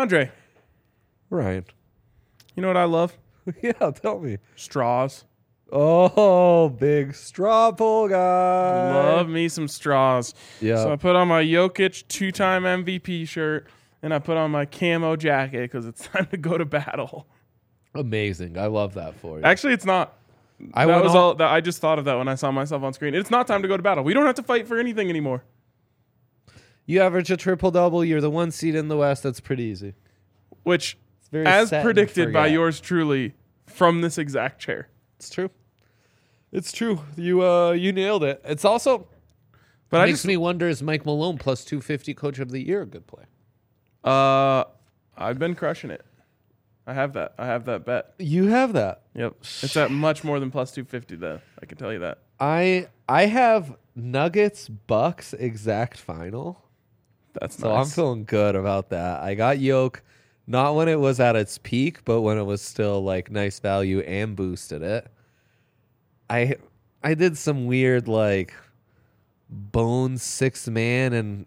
Andre, Ryan. you know what I love? Yeah, tell me. Straws. Oh, big straw pull guy. Love me some straws. Yeah. So I put on my Jokic 2-time MVP shirt, and I put on my camo jacket because it's time to go to battle. Amazing. I love that for you. Actually, it's not. I just thought of that when I saw myself on screen. It's not time to go to battle. We don't have to fight for anything anymore. You average a triple-double. You're the 1 seed in the West. That's pretty easy. Which, Very as set and predicted by forget. yours truly, from this exact chair. It's true. It's true. You nailed it. It's also makes me wonder, is Mike Malone plus 250 Coach of the Year a good play? I've been crushing it. I have that bet. You have that. Yep. It's at much more than plus 250 though. I can tell you that. I have Nuggets Bucks exact final. That's So nice. I'm feeling good about that. I got Yoke, not when it was at its peak, but when it was still like nice value and boosted it. I did some weird like Bones 6 man and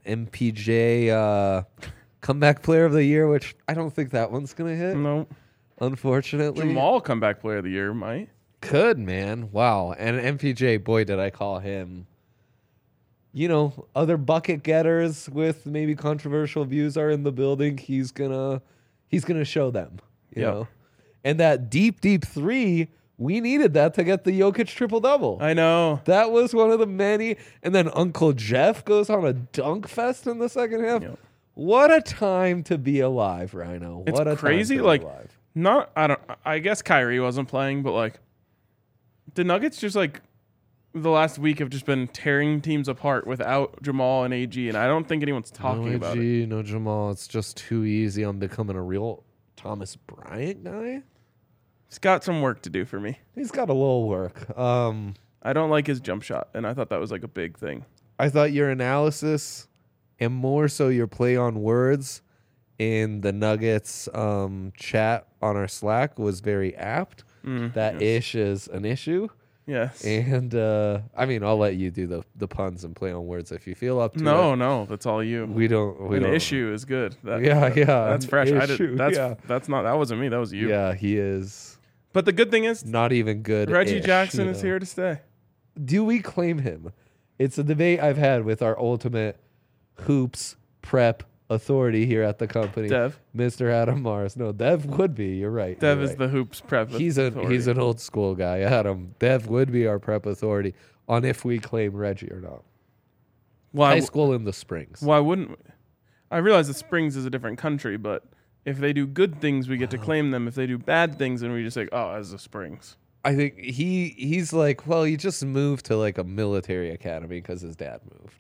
MPJ comeback player of the year, which I don't think that one's gonna hit. No. Unfortunately. Jamal comeback player of the year might. Could, man. Wow. And MPJ, boy, did I call him. You know, other bucket getters with maybe controversial views are in the building. He's gonna show them. You Yep. know? And that deep three, we needed that to get the Jokic triple-double. I know. That was one of the many. And then Uncle Jeff goes on a dunk fest in the second half. Yep. What a time to be alive, Rhino. It's What a crazy. time to be Like, alive. I guess Kyrie wasn't playing, but like, the Nuggets just like the last week have just been tearing teams apart without Jamal and AG, and I don't think anyone's talking no about AG, it. No Jamal. It's just too easy on becoming a real Thomas Bryant guy. He's got some work to do for me. He's got a little work. I don't like his jump shot, and I thought that was like a big thing. I thought your analysis and more so your play on words in the Nuggets chat on our Slack was very apt. That ish is an issue. Yes. And I mean, I'll let you do the puns and play on words if you feel up to it. No, that's all you. We don't. An issue is good. Yeah. That's an fresh. issue, That's not. That wasn't me. That was you. Yeah, he is But the good thing is, not even good. Reggie Jackson is here to stay. Do we claim him? It's a debate I've had with our ultimate hoops prep authority here at the company, Dev. Mr. Adam Mars. No, Dev would be. You're right. Dev you're is right. the hoops prep. He's authority. an old school guy. Adam. Dev would be our prep authority on if we claim Reggie or not. High school in the Springs. Why wouldn't we? I realize that Springs is a different country, but if they do good things, we get to claim them. If they do bad things, then we just say, oh, as the Springs. I think he's like, well, he just moved to like a military academy because his dad moved.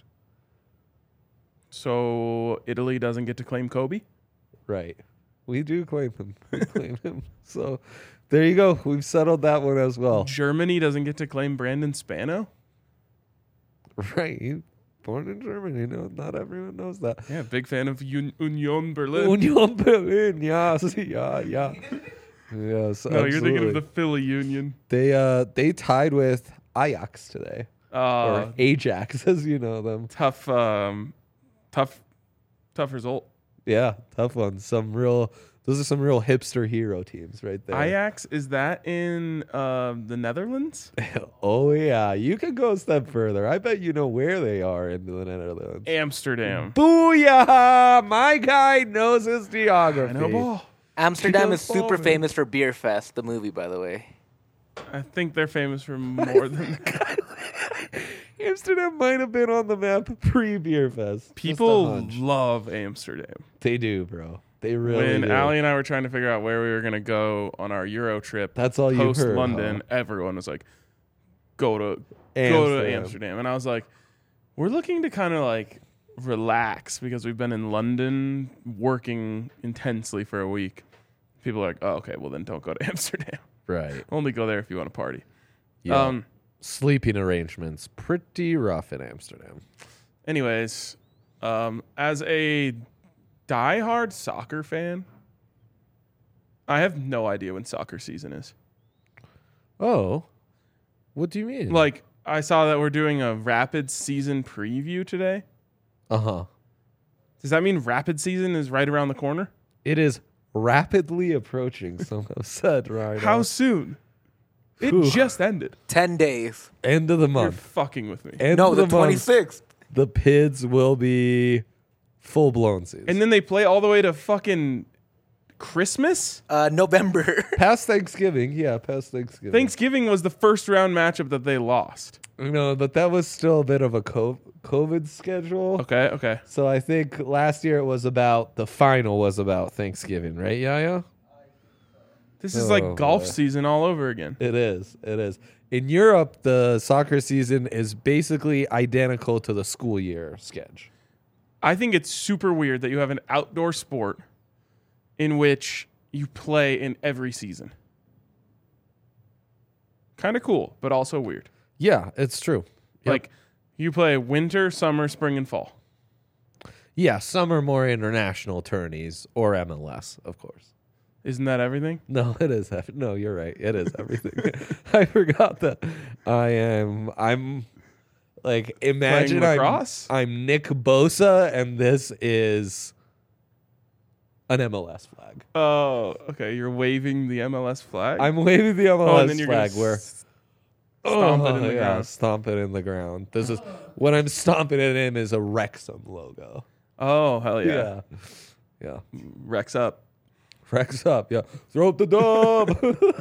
So Italy doesn't get to claim Kobe? Right. We do claim him. We claim him. So there you go. We've settled that one as well. Germany doesn't get to claim Brandon Spano? Right. Born in Germany. No, not everyone knows that. Yeah, big fan of Union Berlin. Union Berlin. Yes. Yeah. Yes. No, absolutely. you're thinking of the Philly Union. They tied with Ajax today. Or Ajax, as you know them. Tough result. Yeah, tough one. Those are some real hipster hero teams right there. Ajax, is that in the Netherlands? Oh, yeah. You can go a step further. I bet you know where they are in the Netherlands. Amsterdam. Booyah! My guy knows his geography. I know ball. Amsterdam He is does super ball, man. famous for Beer Fest, the movie, by the way. I think they're famous for more than that. Amsterdam might have been on the map pre-Beer Fest. Just a People hunch. love Amsterdam. They do, bro. They really When do. Allie and I were trying to figure out where we were going to go on our Euro trip, That's all you heard, post London, huh? everyone was like, go to Amsterdam. Amsterdam. And I was like, we're looking to kind of like relax because we've been in London working intensely for a week. People are like, oh, okay, well then don't go to Amsterdam. Right. Only go there if you want to party. Yeah. Sleeping arrangements pretty rough in Amsterdam. Anyways, as a diehard soccer fan, I have no idea when soccer season is. Oh, what do you mean? Like, I saw that we're doing a Rapid season preview today. Uh-huh. Does that mean Rapid season is right around the corner? It is rapidly approaching. Some have said right. How soon? It Whew. just ended. 10 days. End of the You're month. fucking with me. End No, of the month, 26th. the PIDs will be full blown season. And then they play all the way to fucking Christmas? November. Past Thanksgiving, past Thanksgiving. Thanksgiving was the first round matchup that they lost. No, but that was still a bit of a COVID schedule. Okay. So I think last year it was about the final was about Thanksgiving, right? Yeah. This is like Oh, golf boy. season all over again. It is. In Europe, the soccer season is basically identical to the school year schedule. I think it's super weird that you have an outdoor sport in which you play in every season. Kind of cool, but also weird. Yeah, it's true. Yep. Like you play winter, summer, spring, and fall. Yeah, some are more international tourneys or MLS, of course. Isn't that everything? No, it is. No, you're right. It is everything. I forgot that. I'm like, imagine Playing lacrosse? I'm Nick Bosa, and this is an MLS flag. Oh, okay. You're waving the MLS flag. I'm waving the oh, and MLS then you're flag gonna where stomp it in the ground. stomp it in the ground. This is what I'm stomping it in is a Wrexham logo. Oh, hell yeah. Yeah. Rex up. Rex up. Yeah. Throw up the dub.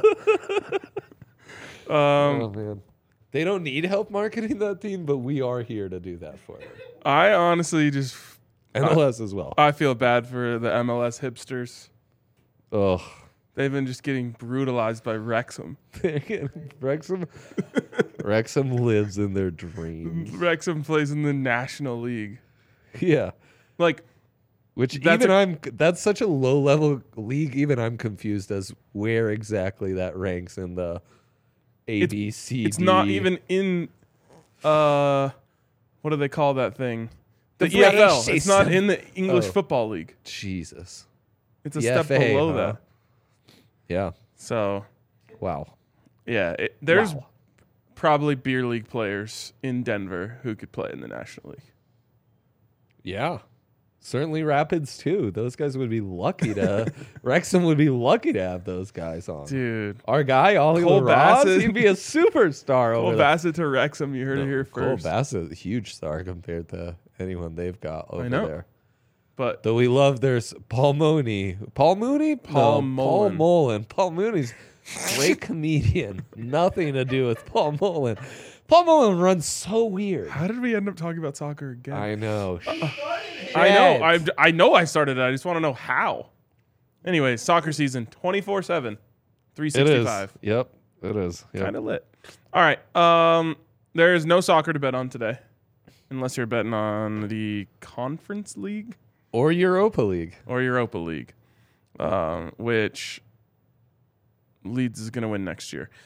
Oh man. They don't need help marketing that team, but we are here to do that for them. I honestly just MLS as well. I feel bad for the MLS hipsters. Oh. They've been just getting brutalized by Wrexham. Wrexham lives in their dreams. Wrexham plays in the National League. Yeah. Like, Which That's that's such a low level league. Even I'm confused as where exactly that ranks in the A, B, C, it's D. not even in what do they call that thing? The The EFL. British It's not in the English Oh. Football League. Jesus. It's a The step FA, below huh? that. Yeah. So, Wow. yeah, there's Wow. probably beer league players in Denver who could play in the National League. Yeah. Certainly Rapids too. Those guys would be lucky to Wrexham would be lucky to have those guys on. Dude, Our guy, Ollie Cole Ross, Bassett. he'd be a superstar Cole over there. Bassett to Wrexham. You heard it here Cole first. Bassett, a huge star compared to anyone they've got over know. there. But Though we love there's Paul Mooney. Paul Mooney? Paul No, Mullen. Paul Mullen. Paul Mooney's a great comedian. Nothing to do with Paul Mullen. Paul Mullen runs so weird. how did we end up talking about soccer again? I know. I know I started it. I just want to know how. Anyway, soccer season 24/7, It is. 365. Yep. It is. Yep. Kind of lit. All right. There is no soccer to bet on today, unless you're betting on the Conference League Or Europa League. or Europa League, which Leeds is going to win next year.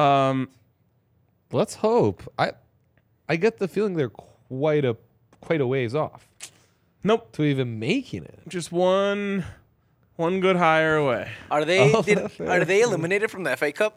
Let's hope. I get the feeling they're quite a ways off Nope. to even making it. Just one good hire away. Are they Oh, are they eliminated from the FA Cup?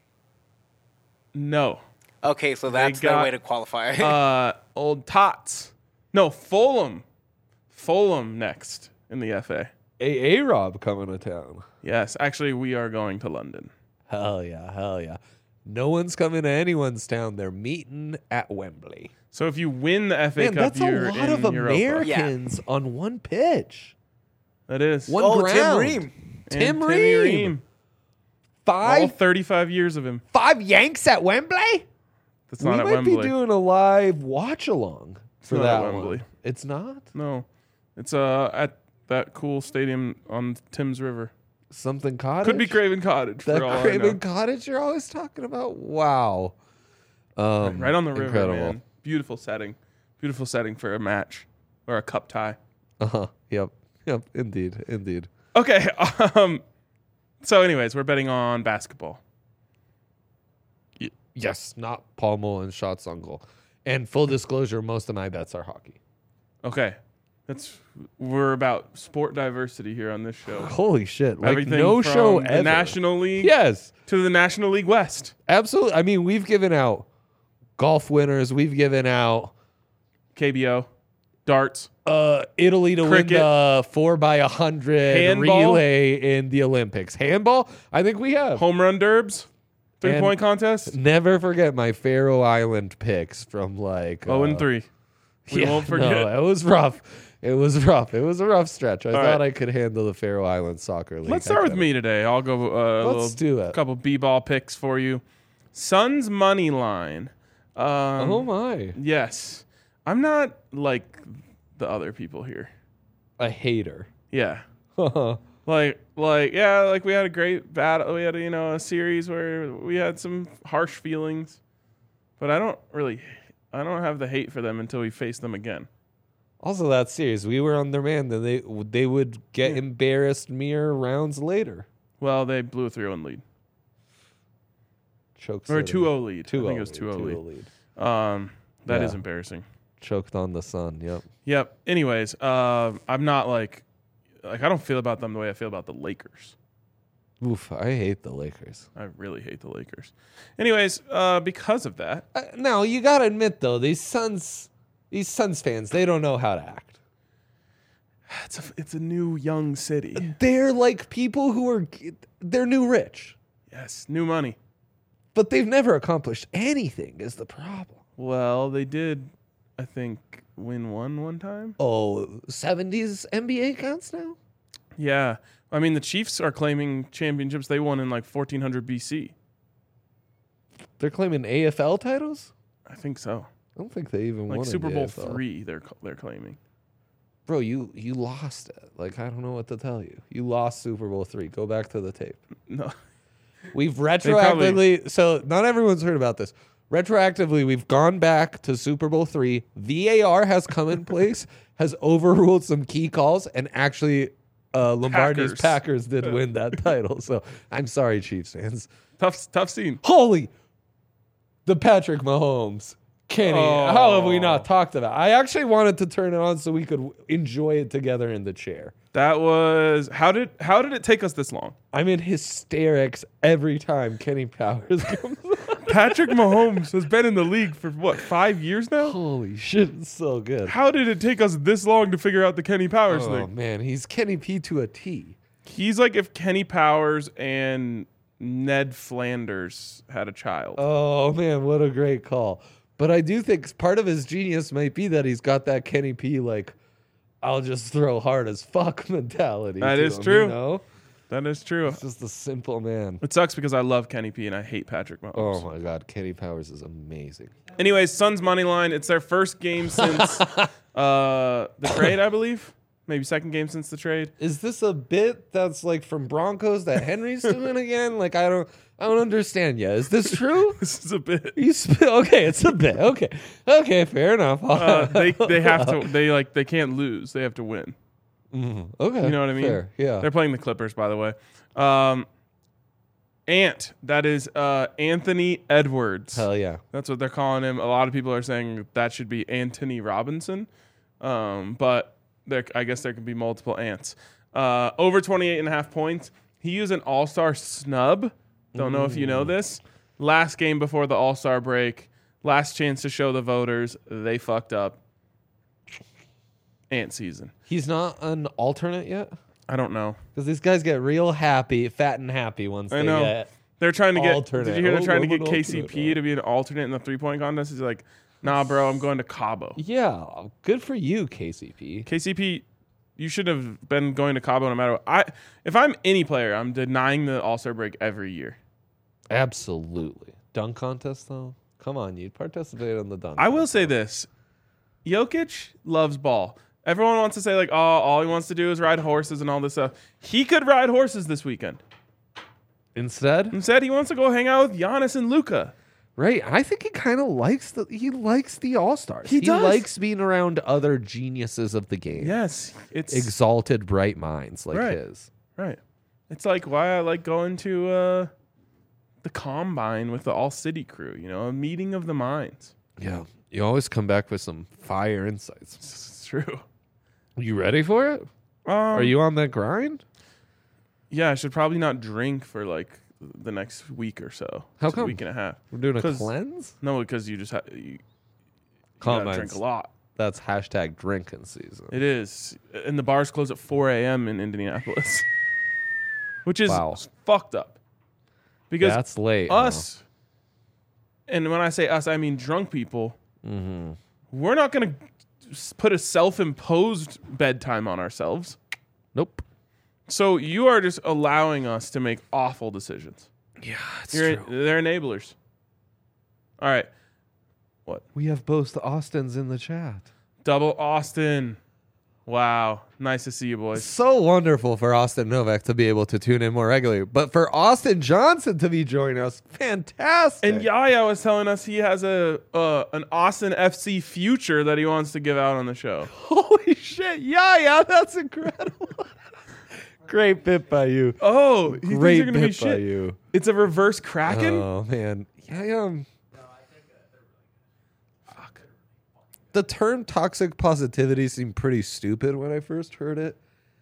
No. Okay, so that's their got- way to qualify. Old Tots. No, Fulham. Fulham next in the FA. A-Rob coming to town. Yes, actually, we are going to London. Hell yeah. No one's coming to anyone's town. They're meeting at Wembley. So if you win the FA Man, Cup, that's a you're lot of in Europa. Americans on one pitch. That is. One oh, ground. Tim Ream. And Tim Timmy Ream. All 35 years of him. Five Yanks at Wembley? That's We not at might Wembley. be doing a live watch along for not that at Wembley. one. It's not? No. It's at that cool stadium on Thames River. Something Cottage? Could be Craven Cottage That for all Craven I know. Cottage you're always talking about? Wow. Right on the river, incredible. man. Beautiful setting. Beautiful setting for a match or a cup tie. Uh-huh. Yep. Indeed. Okay. So anyways, we're betting on basketball. Yes, not Paul Mullen shots on goal. And full disclosure, most of my bets are hockey. Okay. We're about sport diversity here on this show. Holy shit. Like Everything no from show the ever. National League Yes. to the National League West. Absolutely. I mean, we've given out golf winners. We've given out KBO, darts. Italy to Cricket. win the 4x100 Handball? relay in the Olympics. Handball? I think we have. Home run derbs, 3-point And- contest. Never forget my Faroe Island picks from like 0-3. We won't forget. No, it was rough. It was rough. It was a rough stretch. I All thought right. I could handle the Faroe Island soccer league. Let's I start with couldn't. me today. I'll go Let's do it. couple b-ball picks for you. Suns money line. Oh my! Yes. I'm not like the other people here. A hater. Yeah. Like we had a great battle. We had a series where we had some harsh feelings, but I don't have the hate for them until we face them again. Also, that series, we were on their man. Then they would get embarrassed mere rounds later. Well, they blew a 3-0 lead. Choked Or a City. 2-0 lead. 2-0 I think it was 2-0 2-0 lead. lead. That Yeah. is embarrassing. Choked on the sun. Yep. Yep. Anyways, I'm not like I don't feel about them the way I feel about the Lakers. Oof, I hate the Lakers. I really hate the Lakers. Anyways, because of that, Now you gotta admit though, these Suns fans, they don't know how to act. it's a new young city. They're like people they're new rich, Yes, new money. but they've never accomplished anything. Is the problem? Well, they did, I think, win one time. Oh, 70s NBA counts now. Yeah. I mean, the Chiefs are claiming championships they won in like 1400 BC. They're claiming AFL titles. I think so. I don't think they even Like won Super in the Bowl AFL. 3 they're claiming. Bro, you lost it. Like, I don't know what to tell you. You lost Super Bowl 3. Go back to the tape. No. We've probably- retroactively, so not everyone's heard about this. Retroactively, we've gone back to Super Bowl 3. VAR has come in place, has overruled some key calls, and actually Lombardi's Packers did win that title. So I'm sorry, Chiefs fans. Tough scene. Holy, the Patrick Mahomes. Kenny, how have we not talked about it? I actually wanted to turn it on so we could enjoy it together in the chair. That was how did it take us this long? I'm in hysterics every time Kenny Powers comes on. Patrick Mahomes has been in the league for what, 5 years now? Holy shit, it's so good. How did it take us this long to figure out the Kenny Powers Oh thing? man, he's Kenny P to a T. He's like if Kenny Powers and Ned Flanders had a child. Oh man, what a great call. But I do think part of his genius might be that he's got that Kenny P like I'll just throw hard as fuck mentality. That to is him, true. You know? That is true. He's just a simple man. It sucks because I love Kenny P and I hate Patrick Mahomes. Oh my god, Kenny Powers is amazing. Anyways, Suns money line. It's their first game since the trade, I believe. Maybe second game since the trade. Is this a bit that's like from Broncos that Henry's doing again? Like I don't understand yet. Is this true? This is a bit. Okay, it's a bit. Okay, fair enough. They have to. They can't lose. They have to win. Okay, You know what I mean? Fair, yeah. They're playing the Clippers, by the way. Ant. That is Anthony Edwards. Hell yeah. That's what they're calling him. A lot of people are saying that should be Anthony Robinson, but I guess there could be multiple Ants. Over 28.5 points. He used an All-Star snub. Don't know if you know this. Last game before the All-Star break. Last chance to show the voters. They fucked up. Ant season. He's not an alternate yet? I don't know. Because these guys get real happy, fat and happy once I they know. get. They're trying to get. Alternate. Did you hear they're Oh, trying to I'm get an KCP alternate. to be an alternate in the 3-point contest? He's like, nah, bro, I'm going to Cabo. Yeah, good for you, KCP. KCP, you should have been going to Cabo no matter what. If I'm any player, I'm denying the All-Star break every year. Absolutely. Dunk contest, though? Come on, you'd participate in the dunk I will say this. Jokic loves ball. Everyone wants to say, like, oh, all he wants to do is ride horses and all this stuff. He could ride horses this weekend. Instead? Instead, he wants to go hang out with Giannis and Luka. Right. I think he kind of likes the All-Stars. He does. likes being around other geniuses of the game. Yes. It's Exalted, bright minds like Right. his. right. It's like why I like going to the Combine with the All-City crew, a meeting of the minds. Yeah. You always come back with some fire insights. It's true. You ready for it? Are you on that grind? Yeah, I should probably not drink for like the next week or so. How It's a come? week and a half. We're doing a 'Cause- cleanse? No, because you just you gotta drink Combines. a lot. that's hashtag drinking season. It is. And the bars close at 4 a.m. in Indianapolis, which is fucked up. Because that's late. Us, and when I say us, I mean drunk people, we're not going to put a self-imposed bedtime on ourselves. Nope. So you are just allowing us to make awful decisions. Yeah, They're enablers. All right. What? We have both Austins in the chat. Double Austin. Wow. Nice to see you, boys. So wonderful for Austin Novak to be able to tune in more regularly. But for Austin Johnson to be joining us, fantastic. And Yaya was telling us he has an Austin FC future that he wants to give out on the show. Holy shit. Yeah, that's incredible. Great bit by you. Oh, he thinks Great you're gonna be bit by shit. you. It's a reverse Kraken? Oh, man. Yeah. Fuck. The term toxic positivity seemed pretty stupid when I first heard it.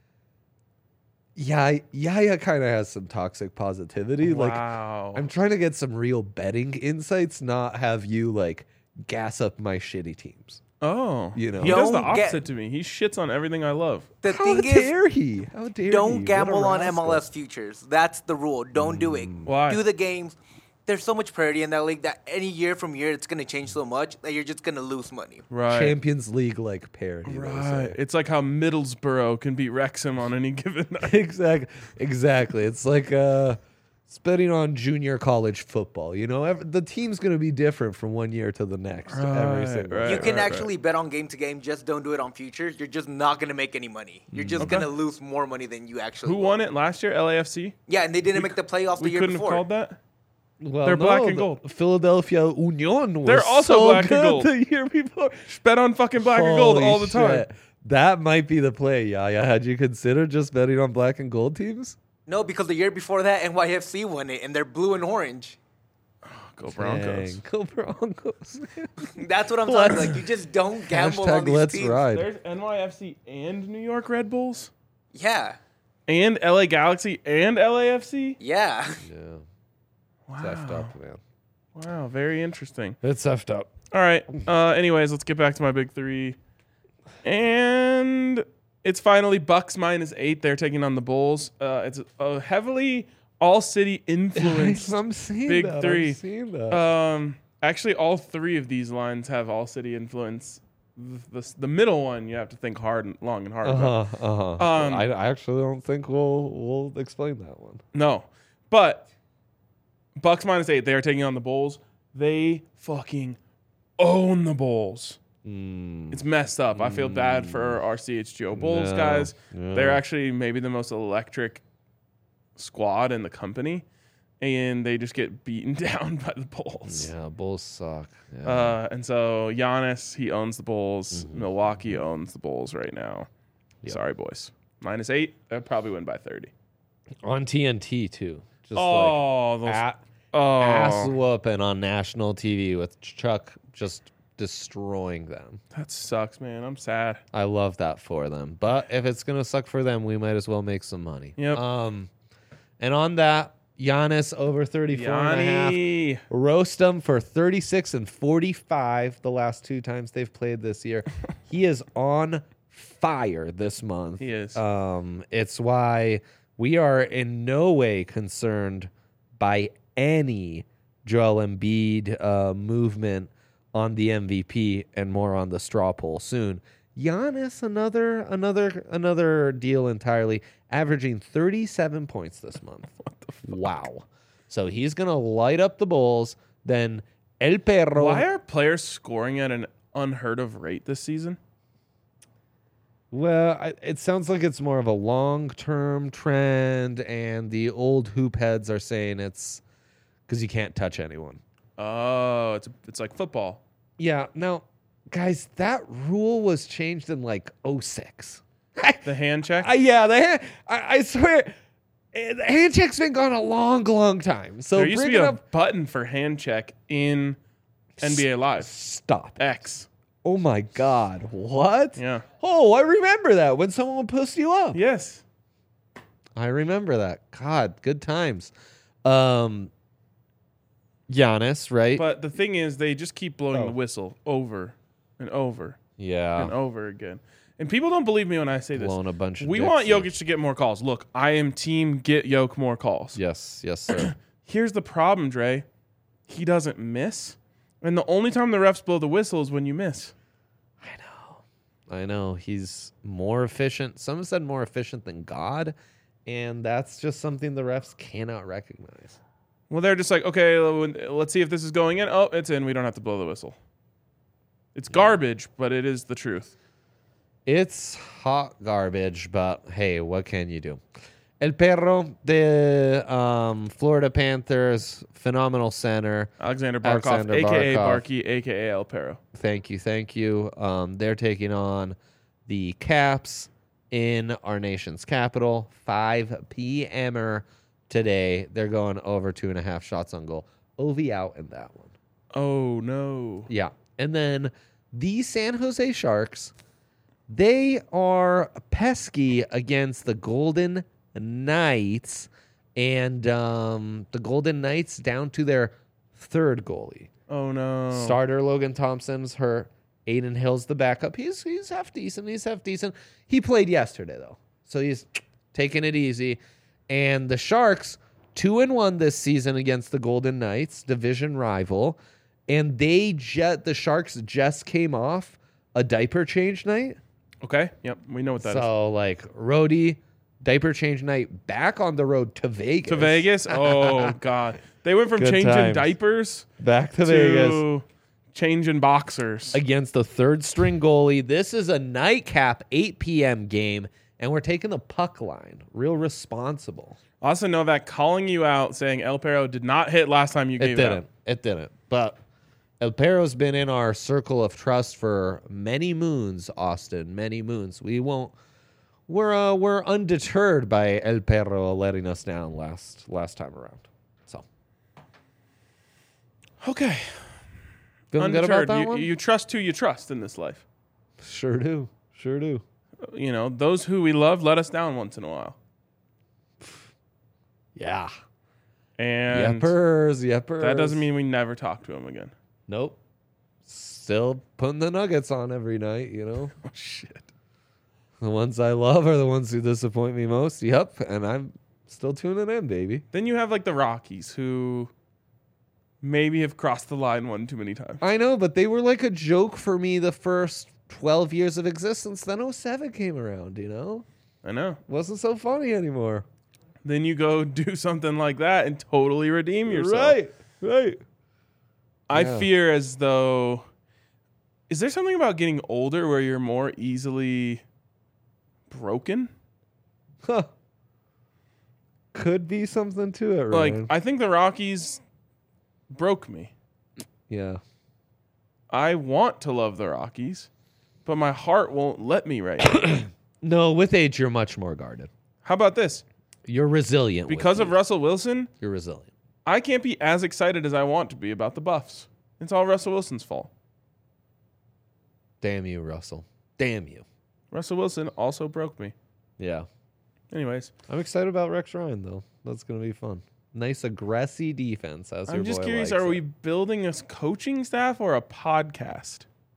Yaya kind of has some toxic positivity. Wow. Like, I'm trying to get some real betting insights, not have you like gas up my shitty teams. Oh. You know. He does the Don't get- opposite to me. He shits on everything I love. The How thing is, dare he? How dare he? don't What a gamble on rascal. MLS futures. That's the rule. Don't do it. Why? Do the games. There's so much parity in that league that any year from year it's gonna change so much that you're just gonna lose money. Right. Champions League like parody. they Right. say. It's like how Middlesbrough can beat Wrexham on any given night. Exactly. It's like it's betting on junior college football. You know, the team's going to be different from one year to the next. Every single right. You can actually bet on game to game. Just don't do it on futures. You're just not gonna make any money. You're just gonna lose more money than you actually. Who won it last year? LAFC? Yeah, and they didn't make the playoffs the We year couldn't before. have called that? Well, They're black and the gold. Philadelphia Union was They're also so black and good gold. the year before. Bet on fucking black and gold Holy all the time. shit. That might be the play, Yaya. Had you considered just betting on black and gold teams? No, because the year before that, NYFC won it, and they're blue and orange. Go Broncos. Dang, go Broncos. That's what I'm talking about. Like, you just don't gamble on Hashtag these let's teams. ride. There's NYFC and New York Red Bulls? Yeah, And LA Galaxy and LAFC? yeah. Yeah, Wow. it's effed up, man. Wow, very interesting. It's effed up. All right. Anyways, let's get back to my big three. And it's finally Bucks -8. They're taking on the Bulls. It's a heavily all-city influenced I'm seeing big that. three. I'm seeing that. Actually, all three of these lines have all-city influence. The middle one, you have to think hard and long and hard about. I actually don't think we'll explain that one. No, but Bucks -8. They are taking on the Bulls. They fucking own the Bulls. It's messed up. I feel bad for our CHGO Bulls Yeah, guys. yeah. They're actually maybe the most electric squad in the company, and they just get beaten down by the Bulls. Yeah, Bulls suck. Yeah. And so Giannis, he owns the Bulls. Milwaukee owns the Bulls right now. Yep. Sorry, boys. -8. They'll probably win by 30. On TNT too. Just Oh, those like oh. ass whooping on national TV with Chuck just destroying them. That sucks, man. I'm sad. I love that for them. But if it's gonna suck for them, we might as well make some money. Yep. And on that, Giannis over 34 and a half. Yanni. Roast them for 36 and 45 the last two times they've played this year. He is on fire this month. He is. It's why we are in no way concerned by any Joel Embiid movement on the MVP and more on the straw poll soon. Giannis, another deal entirely, averaging 37 points this month. What the fuck? Wow. So he's going to light up the Bulls. Then El Perro. Why are players scoring at an unheard of rate this season? Well, it sounds like it's more of a long-term trend, and the old hoop heads are saying it's because you can't touch anyone. Oh, it's like football. Yeah. Now, guys, that rule was changed in like 06. The hand check? Yeah, I swear, the hand check's been gone a long, long time. So there used to be bringing a up, button for hand check in NBA Live. stop. X. Oh my God, what? Yeah. Oh, I remember that when someone would post you up. Yes. I remember that. God, good times. Giannis, right? But the thing is, they just keep blowing the whistle over and over Yeah. and over again. And people don't believe me when I say this. Blown a bunch of We dicks want in. Jokic to get more calls. Look, I am team get Jokic more calls. Yes, sir. Here's the problem, Dre. He doesn't miss. And the only time the refs blow the whistle is when you miss. I know. He's more efficient. Some said more efficient than God, and that's just something the refs cannot recognize. Well, they're just like, okay, let's see if this is going in. Oh, it's in. We don't have to blow the whistle. It's garbage, but it is the truth. It's hot garbage, but hey, what can you do? El Perro, the Florida Panthers, phenomenal center. Alexander Barkov, Alexander a.k.a. Barkov. Barkey, a.k.a. El Perro. Thank you. They're taking on the Caps in our nation's capital. 5 p.m.er today. They're going over 2.5 shots on goal. Ovi out in that one. Oh, no. Yeah. And then the San Jose Sharks, they are pesky against the Golden Knights. And the Golden Knights down to their third goalie. Oh, no. Starter Logan Thompson's hurt. Aiden Hill's the backup. He's half decent. He played yesterday, though. So he's taking it easy. And the Sharks, 2-1 this season against the Golden Knights, division rival. And the Sharks just came off a diaper change night. Okay. Yep. We know what that is. So, like, roadie, diaper change night, back on the road to Vegas. To Vegas? Oh, God. They went from Good changing times. diapers Back to Vegas. changing boxers. Against the third string goalie. This is a nightcap 8 p.m. game, and we're taking the puck line. Real responsible. Austin Novak calling you out, saying El Perro did not hit last time you gave it out. It didn't. But El Perro's been in our circle of trust for many moons, Austin. Many moons. We're undeterred by El Perro letting us down last time around. So Okay. feeling good about that one. You trust who you trust in this life. Sure do. You know, those who we love let us down once in a while. Yeah. And Yepers. that doesn't mean we never talk to him again. Nope. Still putting the nuggets on every night, you know? Oh, shit. The ones I love are the ones who disappoint me most. Yep. And I'm still tuning in, baby. Then you have like the Rockies who maybe have crossed the line one too many times. I know, but they were like a joke for me the first 12 years of existence. Then 07 came around, you know? I know. Wasn't so funny anymore. Then you go do something like that and totally redeem yourself. Right. I Yeah. fear as though, is there something about getting older where you're more easily broken? Huh. Could be something to it, Like, Ryan. I think the Rockies broke me. Yeah. I want to love the Rockies, but my heart won't let me right now. No, with age, you're much more guarded. How about this? You're resilient. Because with of age. Russell Wilson, You're resilient. I can't be as excited as I want to be about the Buffs. It's all Russell Wilson's fault. Damn you, Russell. Damn you. Russell Wilson also broke me. Yeah. Anyways, I'm excited about Rex Ryan, though. That's going to be fun. Nice, aggressive defense, as I'm your just boy curious, likes are it. we building a coaching staff or a podcast?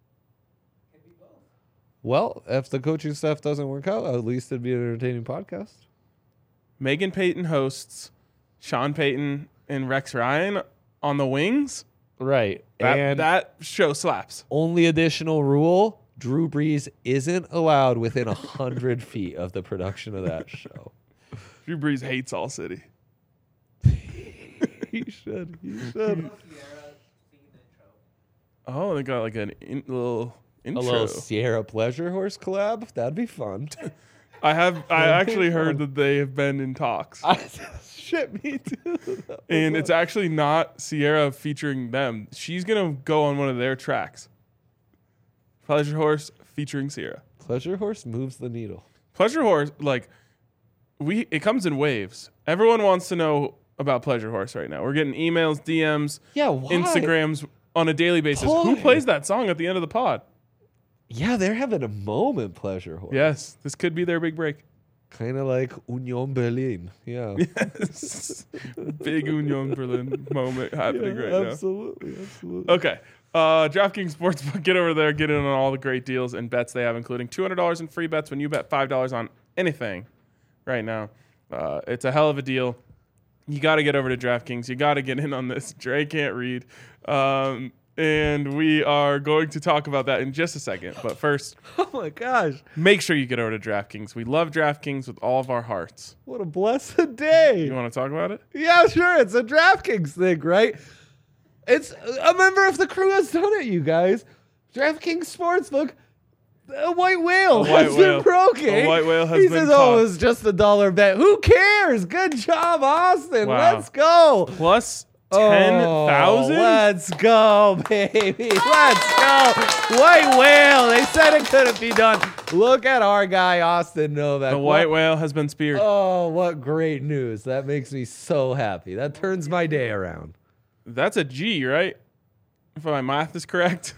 Well, if the coaching staff doesn't work out, at least it'd be an entertaining podcast. Megan Payton hosts Sean Payton and Rex Ryan on the wings. Right. That show slaps. Only additional rule, Drew Brees isn't allowed within 100 feet of the production of that show. Drew Brees hates All City. He should. Oh, they got like a little intro. A little Sierra Pleasure Horse collab? That'd be fun. I actually heard that they have been in talks. Shit, me too. And it's actually not Sierra featuring them. She's going to go on one of their tracks. Pleasure Horse featuring Sierra. Pleasure Horse moves the needle. Pleasure Horse, like, it comes in waves. Everyone wants to know about Pleasure Horse right now. We're getting emails, DMs, Yeah, why? Instagrams on a daily basis. Why? Who plays that song at the end of the pod? Yeah, they're having a moment, Pleasure Horse. Yes, this could be their big break. Kind of like Union Berlin. Yeah. Big Union Berlin moment happening right now. Absolutely. Okay. DraftKings Sportsbook, get over there, get in on all the great deals and bets they have, including $200 in free bets when you bet $5 on anything right now. It's a hell of a deal. You got to get over to DraftKings. You got to get in on this. Dre can't read. And we are going to talk about that in just a second. But first, Oh my gosh. make sure you get over to DraftKings. We love DraftKings with all of our hearts. What a blessed day. You want to talk about it? Yeah, sure. It's a DraftKings thing, right? It's a member of the crew has done it, you guys. DraftKings Sportsbook. A white whale has been broken. A white whale has he been says, caught. "Oh, it was just $1 bet. Who cares? Good job, Austin. Wow. Let's go." Plus 10,000? Let's go, baby. Let's go. White whale. They said it couldn't be done. Look at our guy, Austin Novak. The white whale has been speared. Oh, what great news. That makes me so happy. That turns my day around. That's a G, right? If my math is correct.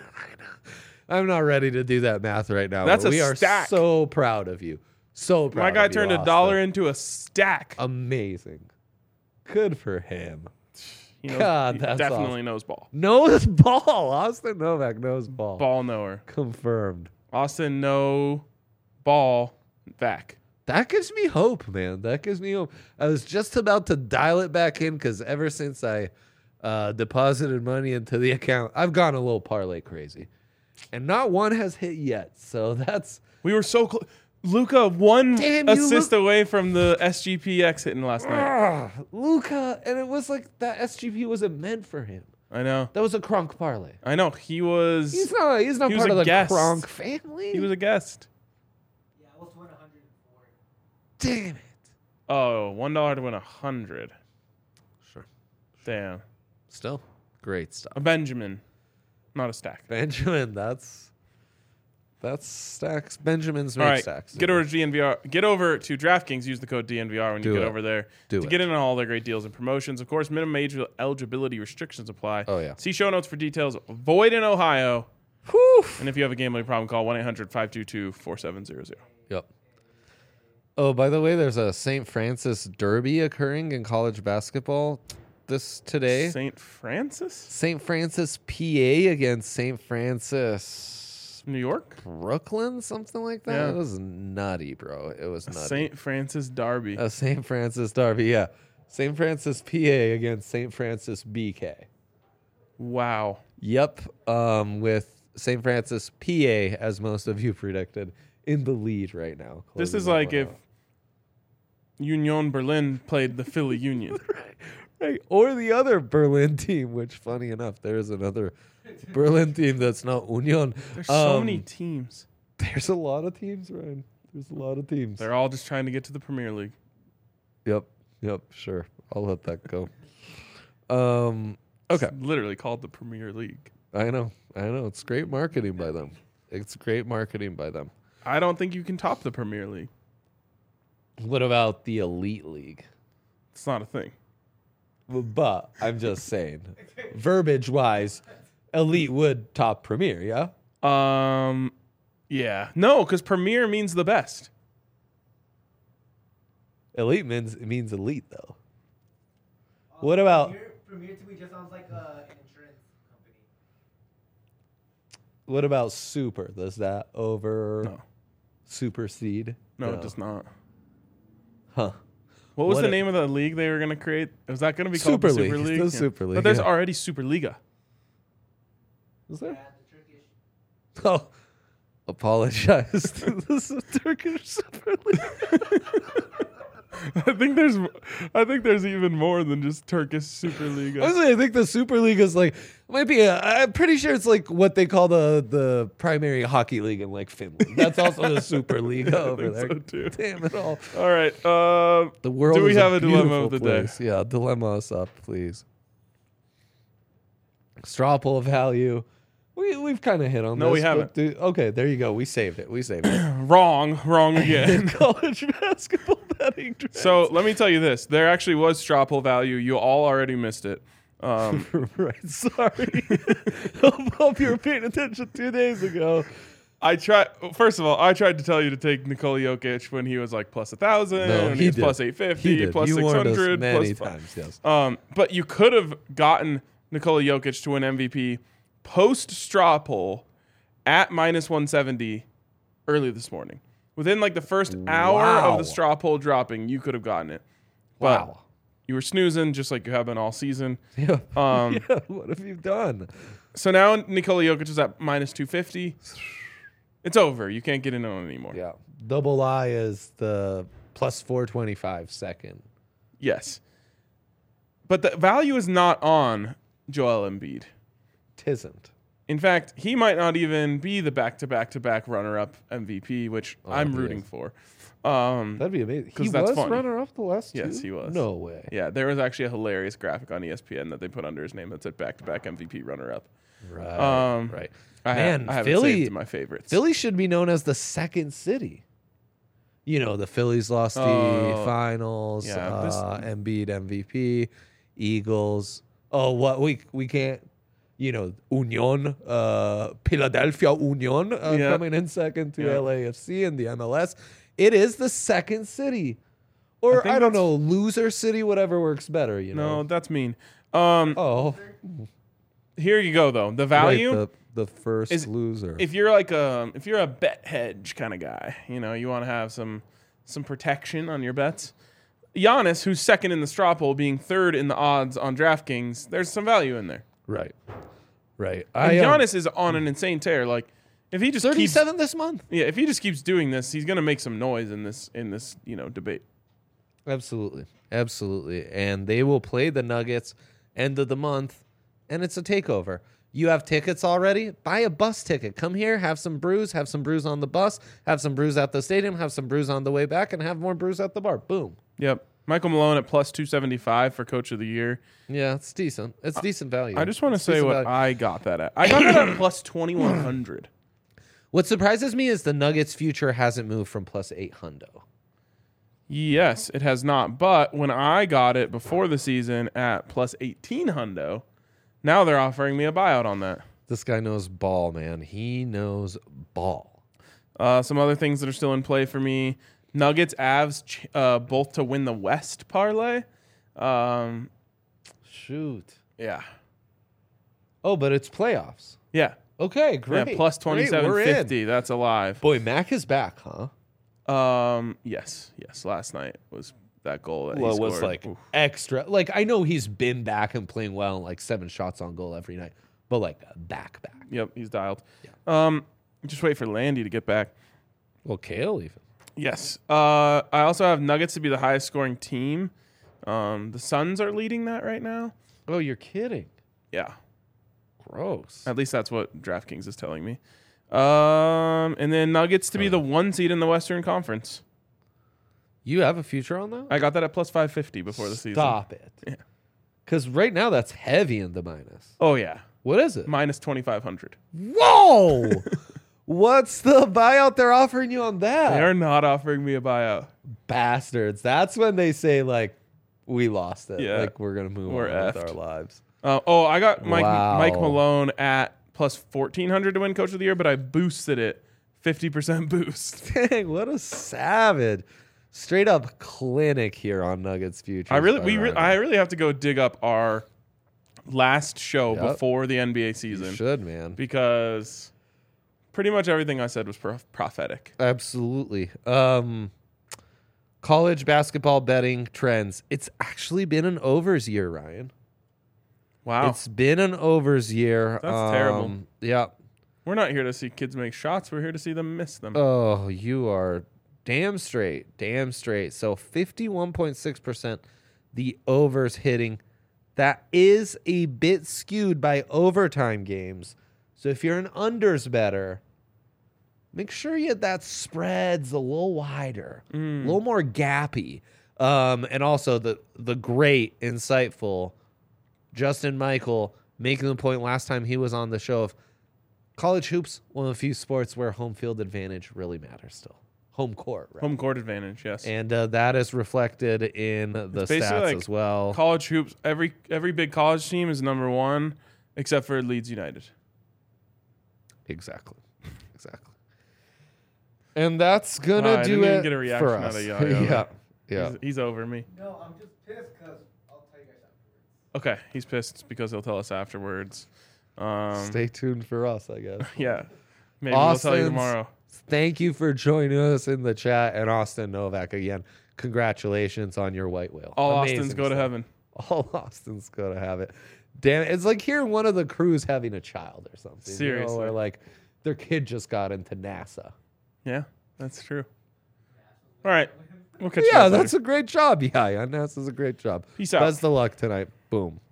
I'm not ready to do that math right now. That's but a we are stack. so proud of you. So proud My guy of you, turned Austin. $1 into a stack. Amazing. Good for him. He knows, God, he that's definitely awesome. knows ball. Knows ball. Austin Novak knows ball. Ball knower. Confirmed. Austin no ball back. That gives me hope, man. That gives me hope. I was just about to dial it back in because ever since I deposited money into the account, I've gone a little parlay crazy. And not one has hit yet. So that's... We were so close. Luca one Damn you, assist away from the SGPX hitting last night. Luca, and it was like that SGP wasn't meant for him. I know. That was a Kronk parlay. I know. He was He's not he was part a of the guest. Kronk family. he was a guest. Yeah, I was 104. Damn it. Oh, $1 to win 100. Sure. Damn. Still great stuff. A Benjamin, not a stack. Benjamin, that's stacks. Benjamin's All make right, stacks. get over to DNVR. Get over to DraftKings. Use the code DNVR when you Do get it. over there Do to it. get in on all their great deals and promotions. Of course, minimum age eligibility restrictions apply. Oh, yeah. See show notes for details. Void in Ohio. Whew. And if you have a gambling problem, call 1-800-522-4700. Yep. Oh, by the way, there's a St. Francis Derby occurring in college basketball today. St. Francis, St. Francis, PA against St. Francis, New York. Brooklyn, something like that. Yeah. It was nutty, bro. It was nutty. St. Francis Derby. A St. Francis Derby, yeah. St. Francis, PA against St. Francis, BK. Wow. Yep. With St. Francis, PA, as most of you predicted, in the lead right now. This is closing like that if one out. Union Berlin played the Philly Union. Right. Or the other Berlin team, which, funny enough, there is another Berlin team that's not Union. There's so many teams. There's a lot of teams, Ryan. There's a lot of teams. They're all just trying to get to the Premier League. Yep. Sure. I'll let that go. Okay. It's literally called the Premier League. I know. It's great marketing by them. I don't think you can top the Premier League. What about the Elite League? It's not a thing. But I'm just saying, verbiage wise, Elite would top Premier, yeah? Yeah. No, because Premier means the best. Elite means elite, though. What about Premier to me just sounds like an insurance company. what about Super? Does that No. supersede? No, it does not. Huh. What was What the a- name of the league they were going to create? Was that going to be Super called the League. Super It's League? the Super League, But there's yeah. already Superliga. Is there? Yeah, the Turkish. Oh, apologize to the Turkish Super League. I think there's even more than just Turkish Superliga. Honestly, I think the Super League is like might be. I'm pretty sure it's like what they call the primary hockey league in like Finland. That's also the Super League over think there. so, too. Damn it all. All right. The world. Do we is have a dilemma beautiful of the day? place. Yeah, dilemma us up, please. Straw poll value. We've kind of hit on this. No, we but haven't. Okay, there you go. We saved it. Wrong again. College basketball betting. Trends. So let me tell you this: there actually was straw poll value. You all already missed it. Right, sorry. Hope you were paying attention 2 days ago. First of all, I tried to tell you to take Nikola Jokic when he was like plus 1,000, No, and he he was did. plus 850, plus You warned us 600, many plus times. Yes. But you could have gotten Nikola Jokic to win MVP post straw poll at minus 170 early this morning. Within like the first hour Wow. of the straw poll dropping, you could have gotten it. But Wow. you were snoozing just like you have been all season. Yeah. Um, Yeah. What have you done? So now Nikola Jokic is at minus 250. It's over. You can't get in on it anymore. Yeah. Double I is the plus 425 second. Yes. But the value is not on Joel Embiid. Tisn't. In fact, he might not even be the back-to-back-to-back runner-up MVP, which I'm he rooting is. for. That'd be amazing. He 'cause that's was funny. runner up the last two? Yes, he was. No way. Yeah, there was actually a hilarious graphic on ESPN that they put under his name that said back-to-back MVP runner-up. Right. Um, right. I Man, have Philly- it saved in my favorites. Philly should be known as the second city. You know, the Phillies lost the Oh, finals. yeah, this- Embiid MVP, Eagles. Oh, what we can't. You know, Union, Philadelphia Union Yeah. coming in second to Yeah. LAFC in the MLS. It is the second city, or think I don't that's- know, loser city, whatever works better. You No, know. that's mean. Oh, Here you go, though. The right, value... the first is- loser. if you're like if you're a bet hedge kind of guy, you know, you want to have some protection on your bets. Giannis, who's second in the straw poll, being third in the odds on DraftKings, there's some value in there. Right. And Giannis is on an insane tear. Like if he just keeps 37 this month. if he just keeps doing this, he's gonna make some noise in this debate. Absolutely. And they will play the Nuggets end of the month, and it's a takeover. You have tickets already? Buy a bus ticket. Come here, have some brews on the bus, have some brews at the stadium, have some brews on the way back, and have more brews at the bar. Boom. Yep. Michael Malone at plus 275 for Coach of the Year. Yeah, it's decent. It's decent value. I just want to It's say decent what value. I got that at. I got that at plus 2100. What surprises me is the Nuggets' future hasn't moved from plus 800. Yes, it has not. But when I got it before the season at plus 1800, now they're offering me a buyout on that. This guy knows ball, man. He knows ball. Some other things that are still in play for me: Nuggets, Avs, both to win the West parlay. Shoot. Yeah, Oh, but it's playoffs. yeah, Okay, great. yeah. Plus Great, we're in. 2750. That's alive. Boy, Mac is back, huh? Yes. Last night was that goal that Well, he it scored. was like Oof. extra. Like, I know he's been back and playing well, and like 7 shots on goal every night, but like back. Yep, he's dialed. Yeah. Just wait for Landy to get back. Well, Kale even. Yes. I also have Nuggets to be the highest scoring team. The Suns are leading that right now. Oh, you're kidding. Yeah. Gross. At least that's what DraftKings is telling me. And then Nuggets to be the 1 seed in the Western Conference. You have a future on that? I got that at plus 550 before the season. Stop it. Yeah. Because right now that's heavy in the minus. Oh, yeah. What is it? Minus 2,500. Whoa! What's the buyout they're offering you on that? They are not offering me a buyout. Bastards. That's when they say, like, we lost it. Yeah. Like, we're going to move We're on with effed. our lives. I got Mike Wow. Malone at plus 1,400 to win Coach of the Year, but I boosted it 50% boost. Dang, what a savage. Straight up clinic here on Nuggets Future. I really have to go dig up our last show before the NBA season should, man. because pretty much everything I said was prophetic. Absolutely. College basketball betting trends. It's actually been an overs year, Ryan. Wow. It's been an overs year. That's terrible. Yeah. We're not here to see kids make shots. We're here to see them miss them. Oh, you are damn straight. Damn straight. So 51.6% the overs hitting. That is a bit skewed by overtime games. So if you're an unders better, make sure that spread's a little wider, a little more gappy. And also the great, insightful Justin Michael making the point last time he was on the show of college hoops, one of the few sports where home field advantage really matters still. Home court, right? Home court advantage, yes. And that is reflected in the basically stats like as well. College hoops, every big college team is number one except for Leeds United. Exactly. And that's gonna I do didn't even it get a reaction for out us. of Yayo. Yeah, yeah. He's over me. No, I'm just pissed because I'll tell you guys afterwards. Okay, he's pissed because he'll tell us afterwards. Stay tuned for us, I guess. Yeah, maybe we'll tell you Austin's- tomorrow. Thank you for joining us in the chat, and Austin Novak again. Congratulations on your white whale. All Amazing Austins go to stuff. heaven. All Austins go to have it. Damn it. It's like hearing one of the crews having a child or something. Seriously. Or like their kid just got into NASA. Yeah, that's true. All right, we'll catch you Yeah, guys later. that's a great job. Yeah, NASA's a great job. Peace out. Best of luck tonight. Boom.